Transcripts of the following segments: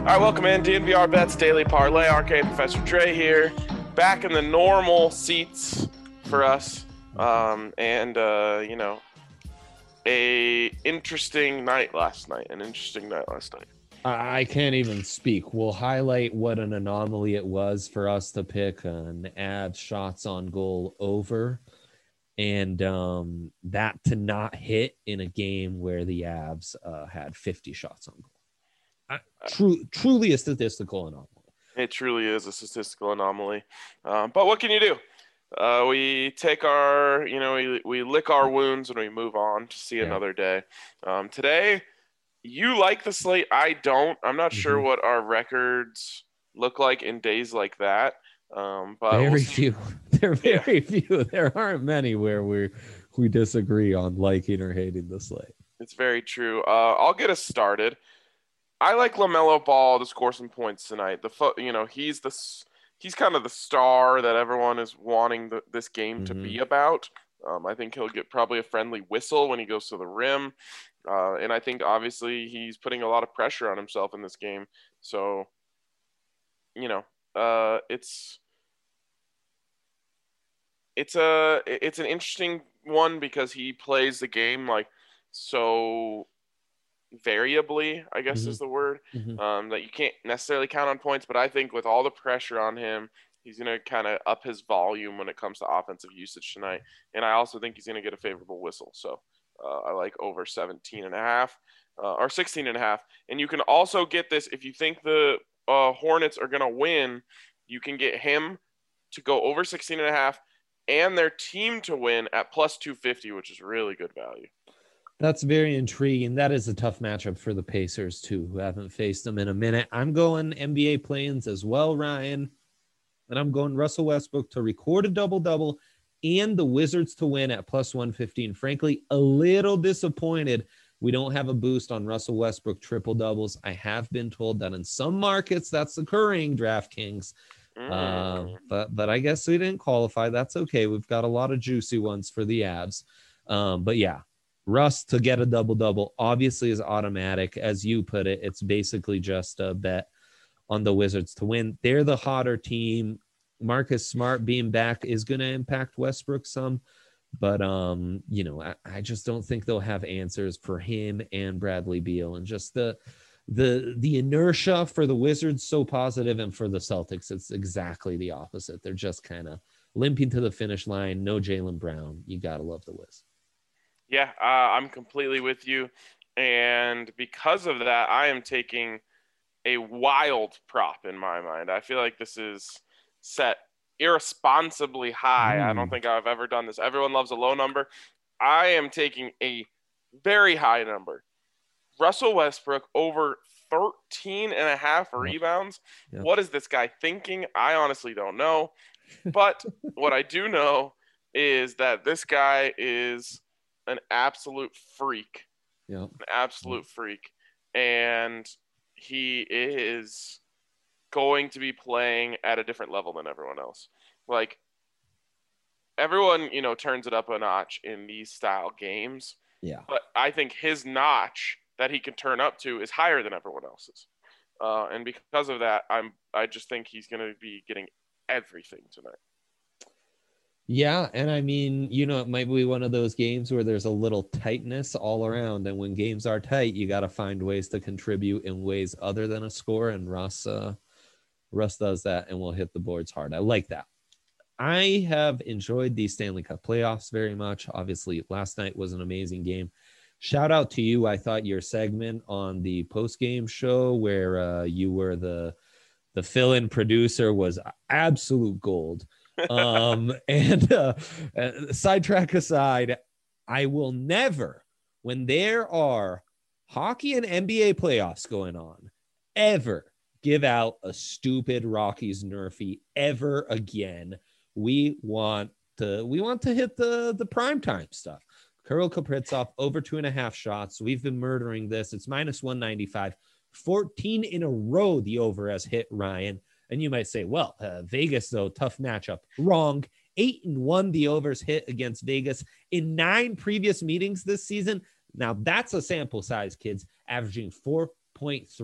All right, welcome in. DNVR Bets Daily Parlay. RK Professor Dre here. Back in the normal seats for us. A interesting night last night. I can't even speak. We'll highlight what an anomaly it was for us to pick an Avs shots on goal over, and that to not hit in a game where the Avs had 50 shots on goal. Truly a statistical anomaly. It truly is a statistical anomaly. But what can you do? We take our, we lick our wounds and we move on to see another day. Today, you like the slate. I don't. I'm not sure what our records look like in days like that. But very few. There are very few. There aren't many where we disagree on liking or hating the slate. It's very true. I'll get us started. I like LaMelo Ball to score some points tonight. He's kind of the star that everyone is wanting this game to be about. I think he'll get probably a friendly whistle when he goes to the rim. And I think obviously he's putting a lot of pressure on himself in this game. So, it's an interesting one because he plays the game like so variably, I guess is the word, that you can't necessarily count on points. But I think with all the pressure on him, he's going to kind of up his volume when it comes to offensive usage tonight. And I also think he's going to get a favorable whistle. So I like over 17.5 or 16.5. And you can also get this if you think the Hornets are going to win, you can get him to go over 16.5 and their team to win at plus 250, which is really good value. That's very intriguing. That is a tough matchup for the Pacers, too, who haven't faced them in a minute. I'm going NBA play-ins as well, Ryan. And I'm going Russell Westbrook to record a double-double and the Wizards to win at plus 115. Frankly, a little disappointed we don't have a boost on Russell Westbrook triple-doubles. I have been told that in some markets that's occurring, DraftKings. But I guess we didn't qualify. That's okay. We've got a lot of juicy ones for the Avs. But yeah. Russ to get a double-double obviously is automatic. As you put it, it's basically just a bet on the Wizards to win. They're the hotter team. Marcus Smart being back is going to impact Westbrook some, but I just don't think they'll have answers for him and Bradley Beal, and just the inertia for the Wizards so positive, and for the Celtics it's exactly the opposite. They're just kind of limping to the finish line. No Jaylen Brown. You got to love the Wiz. Yeah, I'm completely with you. And because of that, I am taking a wild prop in my mind. I feel like this is set irresponsibly high. I don't think I've ever done this. Everyone loves a low number. I am taking a very high number. Russell Westbrook over 13.5 rebounds. Yep. What is this guy thinking? I honestly don't know. But what I do know is that this guy is an absolute freak. Yeah. An absolute freak. And he is going to be playing at a different level than everyone else. Like, everyone, turns it up a notch in these style games. Yeah. But I think his notch that he can turn up to is higher than everyone else's. And because of that, I just think he's going to be getting everything tonight. Yeah, and I mean, it might be one of those games where there's a little tightness all around, and when games are tight, you got to find ways to contribute in ways other than a score, and Russ does that and will hit the boards hard. I like that. I have enjoyed the Stanley Cup playoffs very much. Obviously, last night was an amazing game. Shout out to you. I thought your segment on the post-game show where you were the fill-in producer was absolute gold. And sidetrack aside, I will never, when there are hockey and NBA playoffs going on, ever give out a stupid Rockies Nerfy ever again. We want to hit the primetime stuff. Kirill Kaprizov over 2.5 shots. We've been murdering this. It's minus 195. 14 in a row the over has hit, Ryan. And you might say, well, Vegas, though, tough matchup. Wrong. 8-1 the overs hit against Vegas in 9 previous meetings this season. Now, that's a sample size, kids, averaging 4.3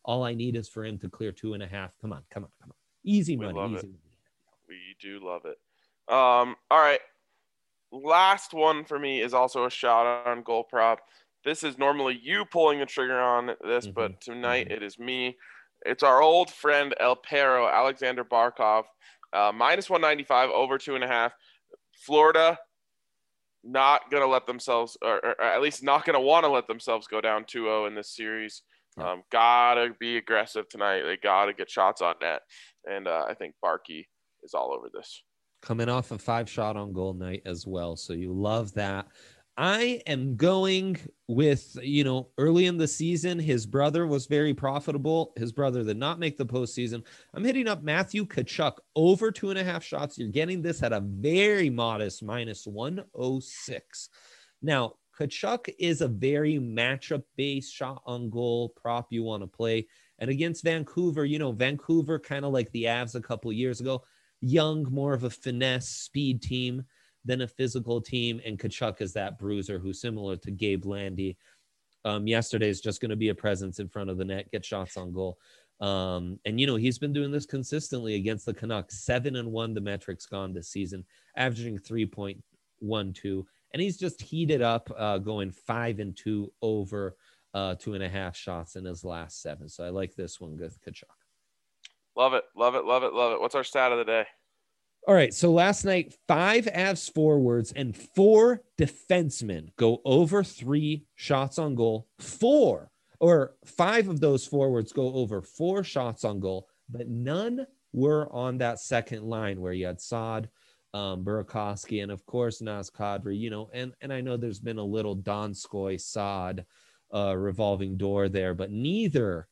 All I need is for him to clear 2.5. Come on. Easy money. Love easy it. money. We do love it. All right. Last one for me is also a shot on goal prop. This is normally you pulling the trigger on this, but tonight it is me. It's our old friend El Perro, Alexander Barkov, minus 195 over 2.5. Florida not going to let themselves, or at least not going to want to let themselves go down 2-0 in this series. Gotta be aggressive tonight. They gotta get shots on net. And I think Barkey is all over this. Coming off a 5-shot on goal night as well. So you love that. I am going with, early in the season, his brother was very profitable. His brother did not make the postseason. I'm hitting up Matthew Tkachuk over 2.5 shots. You're getting this at a very modest minus 106. Now, Tkachuk is a very matchup-based shot on goal prop you want to play. And against Vancouver, Vancouver kind of like the Avs a couple of years ago, young, more of a finesse speed team than a physical team. And Tkachuk is that bruiser who's similar to Gabe Landy. Yesterday is just going to be a presence in front of the net, get shots on goal. And he's been doing this consistently against the Canucks. 7-1 the metrics gone this season, averaging 3.12. And he's just heated up, going 5-2 over 2.5 shots in his last 7. So I like this one with Tkachuk. Love it. What's our stat of the day? All right. So last night, 5 Avs forwards and 4 defensemen go over 3 shots on goal. 5 of those forwards go over 4 shots on goal, but none were on that second line where you had Saad, Burakovsky, and of course Naz Kadri, and I know there's been a little Donskoy Saad revolving door there, but none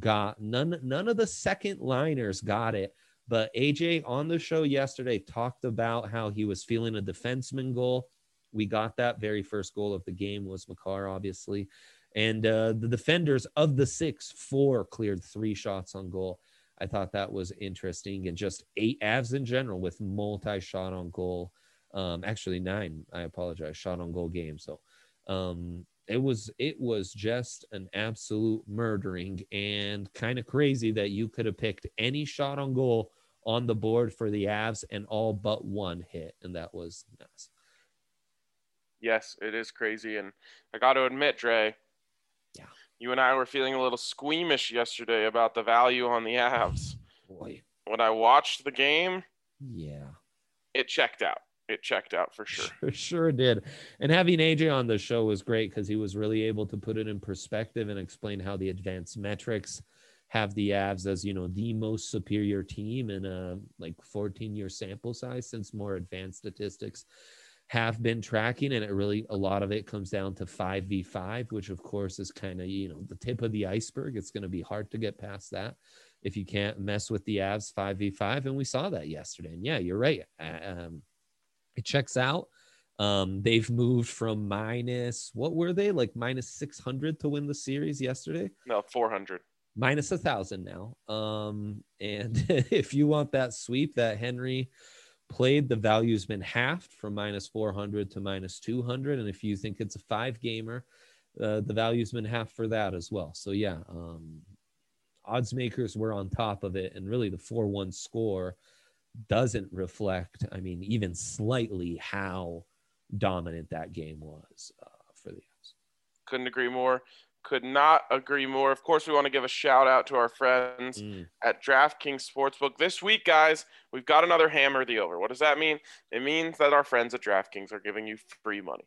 of the second liners got it. But AJ on the show yesterday talked about how he was feeling a defenseman goal. We got that. Very first goal of the game was Makar, obviously. And the defenders of the 6, 4 cleared 3 shots on goal. I thought that was interesting. And just 8 Avs in general with multi-shot on goal. Actually 9, I apologize, shot on goal game. So it was just an absolute murdering, and kind of crazy that you could have picked any shot on goal on the board for the Avs and all but one hit, and that was Naz. Yes, it is crazy, and I got to admit, Dre, you and I were feeling a little squeamish yesterday about the value on the Avs. Boy. When I watched the game, it checked out. It checked out for sure. Sure did. And having AJ on the show was great because he was really able to put it in perspective and explain how the advanced metrics have the Avs as, the most superior team in a 14-year sample size, since more advanced statistics have been tracking. And a lot of it comes down to 5v5, which of course is kind of, the tip of the iceberg. It's going to be hard to get past that if you can't mess with the Avs 5v5. And we saw that yesterday. And yeah, you're right. It checks out. They've moved from what were they, minus 600 to win the series yesterday? No, 400. Minus 1,000 now. And if you want that sweep that Henry played, the value's been halved from minus 400 to minus 200. And if you think it's a 5-gamer, the value's been halved for that as well. So yeah, odds makers were on top of it, and really the 4-1 score doesn't reflect, even slightly, how dominant that game was for the Avs. Couldn't agree more. Could not agree more. Of course, we want to give a shout out to our friends at DraftKings Sportsbook. This week, guys, we've got another hammer the over. What does that mean? It means that our friends at DraftKings are giving you free money.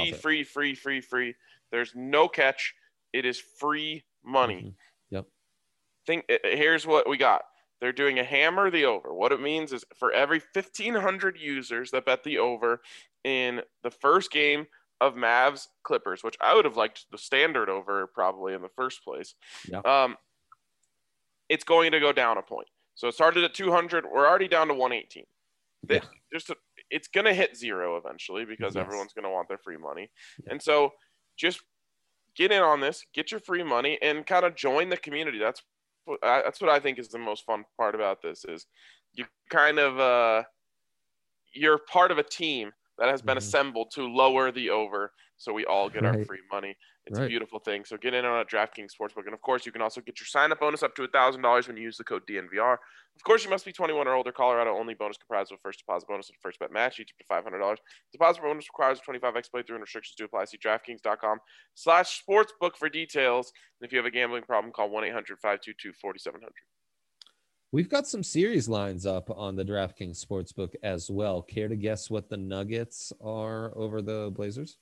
Free. There's no catch. It is free money. Yep. Here's what we got. They're doing a hammer the over. What it means is for every 1,500 users that bet the over in the first game of Mavs Clippers, which I would have liked the standard over probably in the first place. Yeah. It's going to go down a point. So it started at 200. We're already down to 118. It's going to hit 0 eventually because everyone's going to want their free money. Yeah. And so just get in on this, get your free money, and kind of join the community. That's what I think is the most fun part about this is you kind of you're part of a team that has been assembled to lower the over so we all get our free money. It's a beautiful thing. So get in on a DraftKings Sportsbook. And of course, you can also get your sign-up bonus up to $1,000 when you use the code DNVR. Of course, you must be 21 or older. Colorado only. Bonus comprised of first deposit bonus and first bet match, each up to $500. Deposit bonus requires a 25x playthrough and restrictions do apply. See DraftKings.com/sportsbook for details. And if you have a gambling problem, call 1-800-522-4700. We've got some series lines up on the DraftKings Sportsbook as well. Care to guess what the Nuggets are over the Blazers?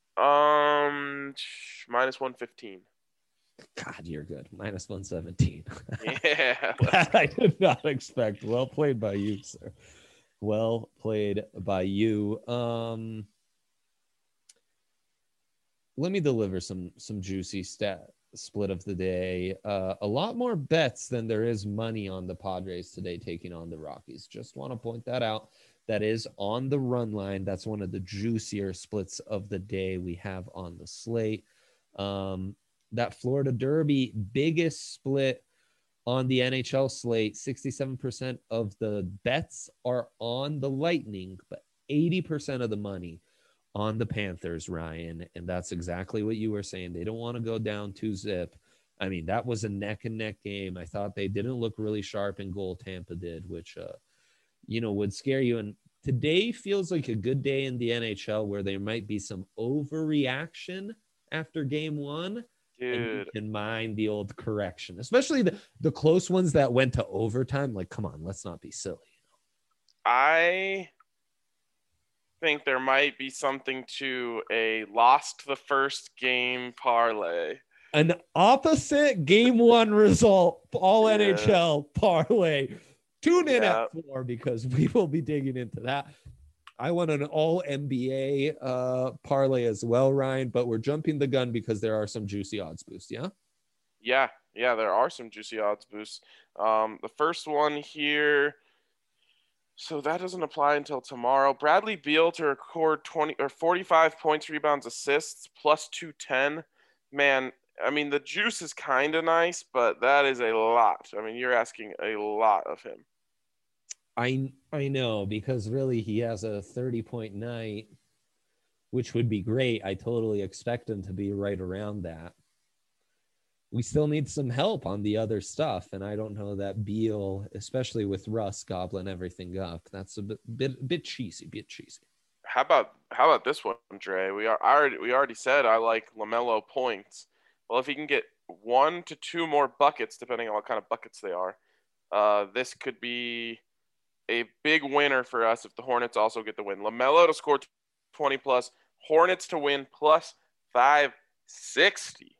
-115. God, you're good. -117. Yeah. That I did not expect. Well played by you, sir. Well played by you. Let me deliver some juicy split of the day. A lot more bets than there is money on the Padres today taking on the Rockies. Just want to point that out. That is on the run line. That's one of the juicier splits of the day we have on the slate. That Florida Derby, biggest split on the NHL slate. 67% of the bets are on the Lightning, but 80% of the money on the Panthers, Ryan. And that's exactly what you were saying. They don't want to go down 2-zip. I mean, that was a neck and neck game. I thought they didn't look really sharp in goal. Tampa did, which, would scare you. And today feels like a good day in the NHL where there might be some overreaction after game one. Dude. And you can mind the old correction, especially the close ones that went to overtime. Like, come on, let's not be silly. I think there might be something to a lost the first game parlay. An opposite game one result, all NHL parlay. Tune in at 4 because we will be digging into that. I want an all NBA parlay as well, Ryan, but we're jumping the gun because there are some juicy odds boosts. Yeah. Yeah, there are some juicy odds boosts. The first one here. So that doesn't apply until tomorrow. Bradley Beal to record 20 or 45 points, rebounds, assists, plus 210. Man, I mean, the juice is kind of nice, but that is a lot. I mean, you're asking a lot of him. I know, because really he has a 30-point night, which would be great. I totally expect him to be right around that. We still need some help on the other stuff, and I don't know that Beal, especially with Russ gobbling everything up, that's a bit cheesy. How about this one, Dre? We already said I like LaMelo points. Well, if he can get 1 to 2 more buckets, depending on what kind of buckets they are, this could be a big winner for us if the Hornets also get the win. LaMelo to score 20 plus, Hornets to win plus 560.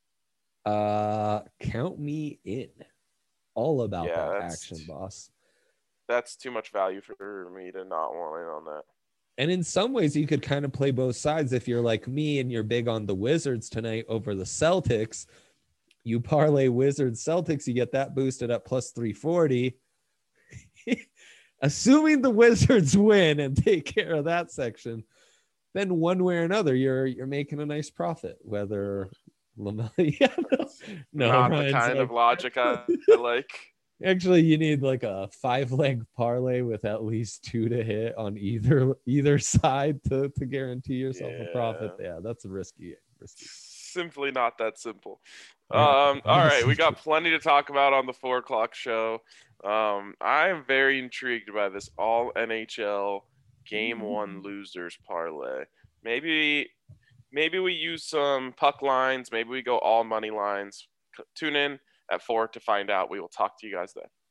Count me in. All about that action, boss. That's too much value for me to not want in on that. And in some ways, you could kind of play both sides. If you're like me and you're big on the Wizards tonight over the Celtics, you parlay Wizards Celtics, you get that boosted up plus 340. Assuming the Wizards win and take care of that section, then one way or another, you're making a nice profit. Whether LaMelo, not the kind of logic I like. Actually, you need like a 5-leg parlay with at least 2 to hit on either side to guarantee yourself a profit. Yeah, that's a risky. Simply not that simple. All right, we got plenty to talk about on the 4 o'clock show. I am very intrigued by this all NHL game 1 losers parlay. Maybe we use some puck lines. Maybe we go all money lines. Tune in at 4 to find out. We will talk to you guys then.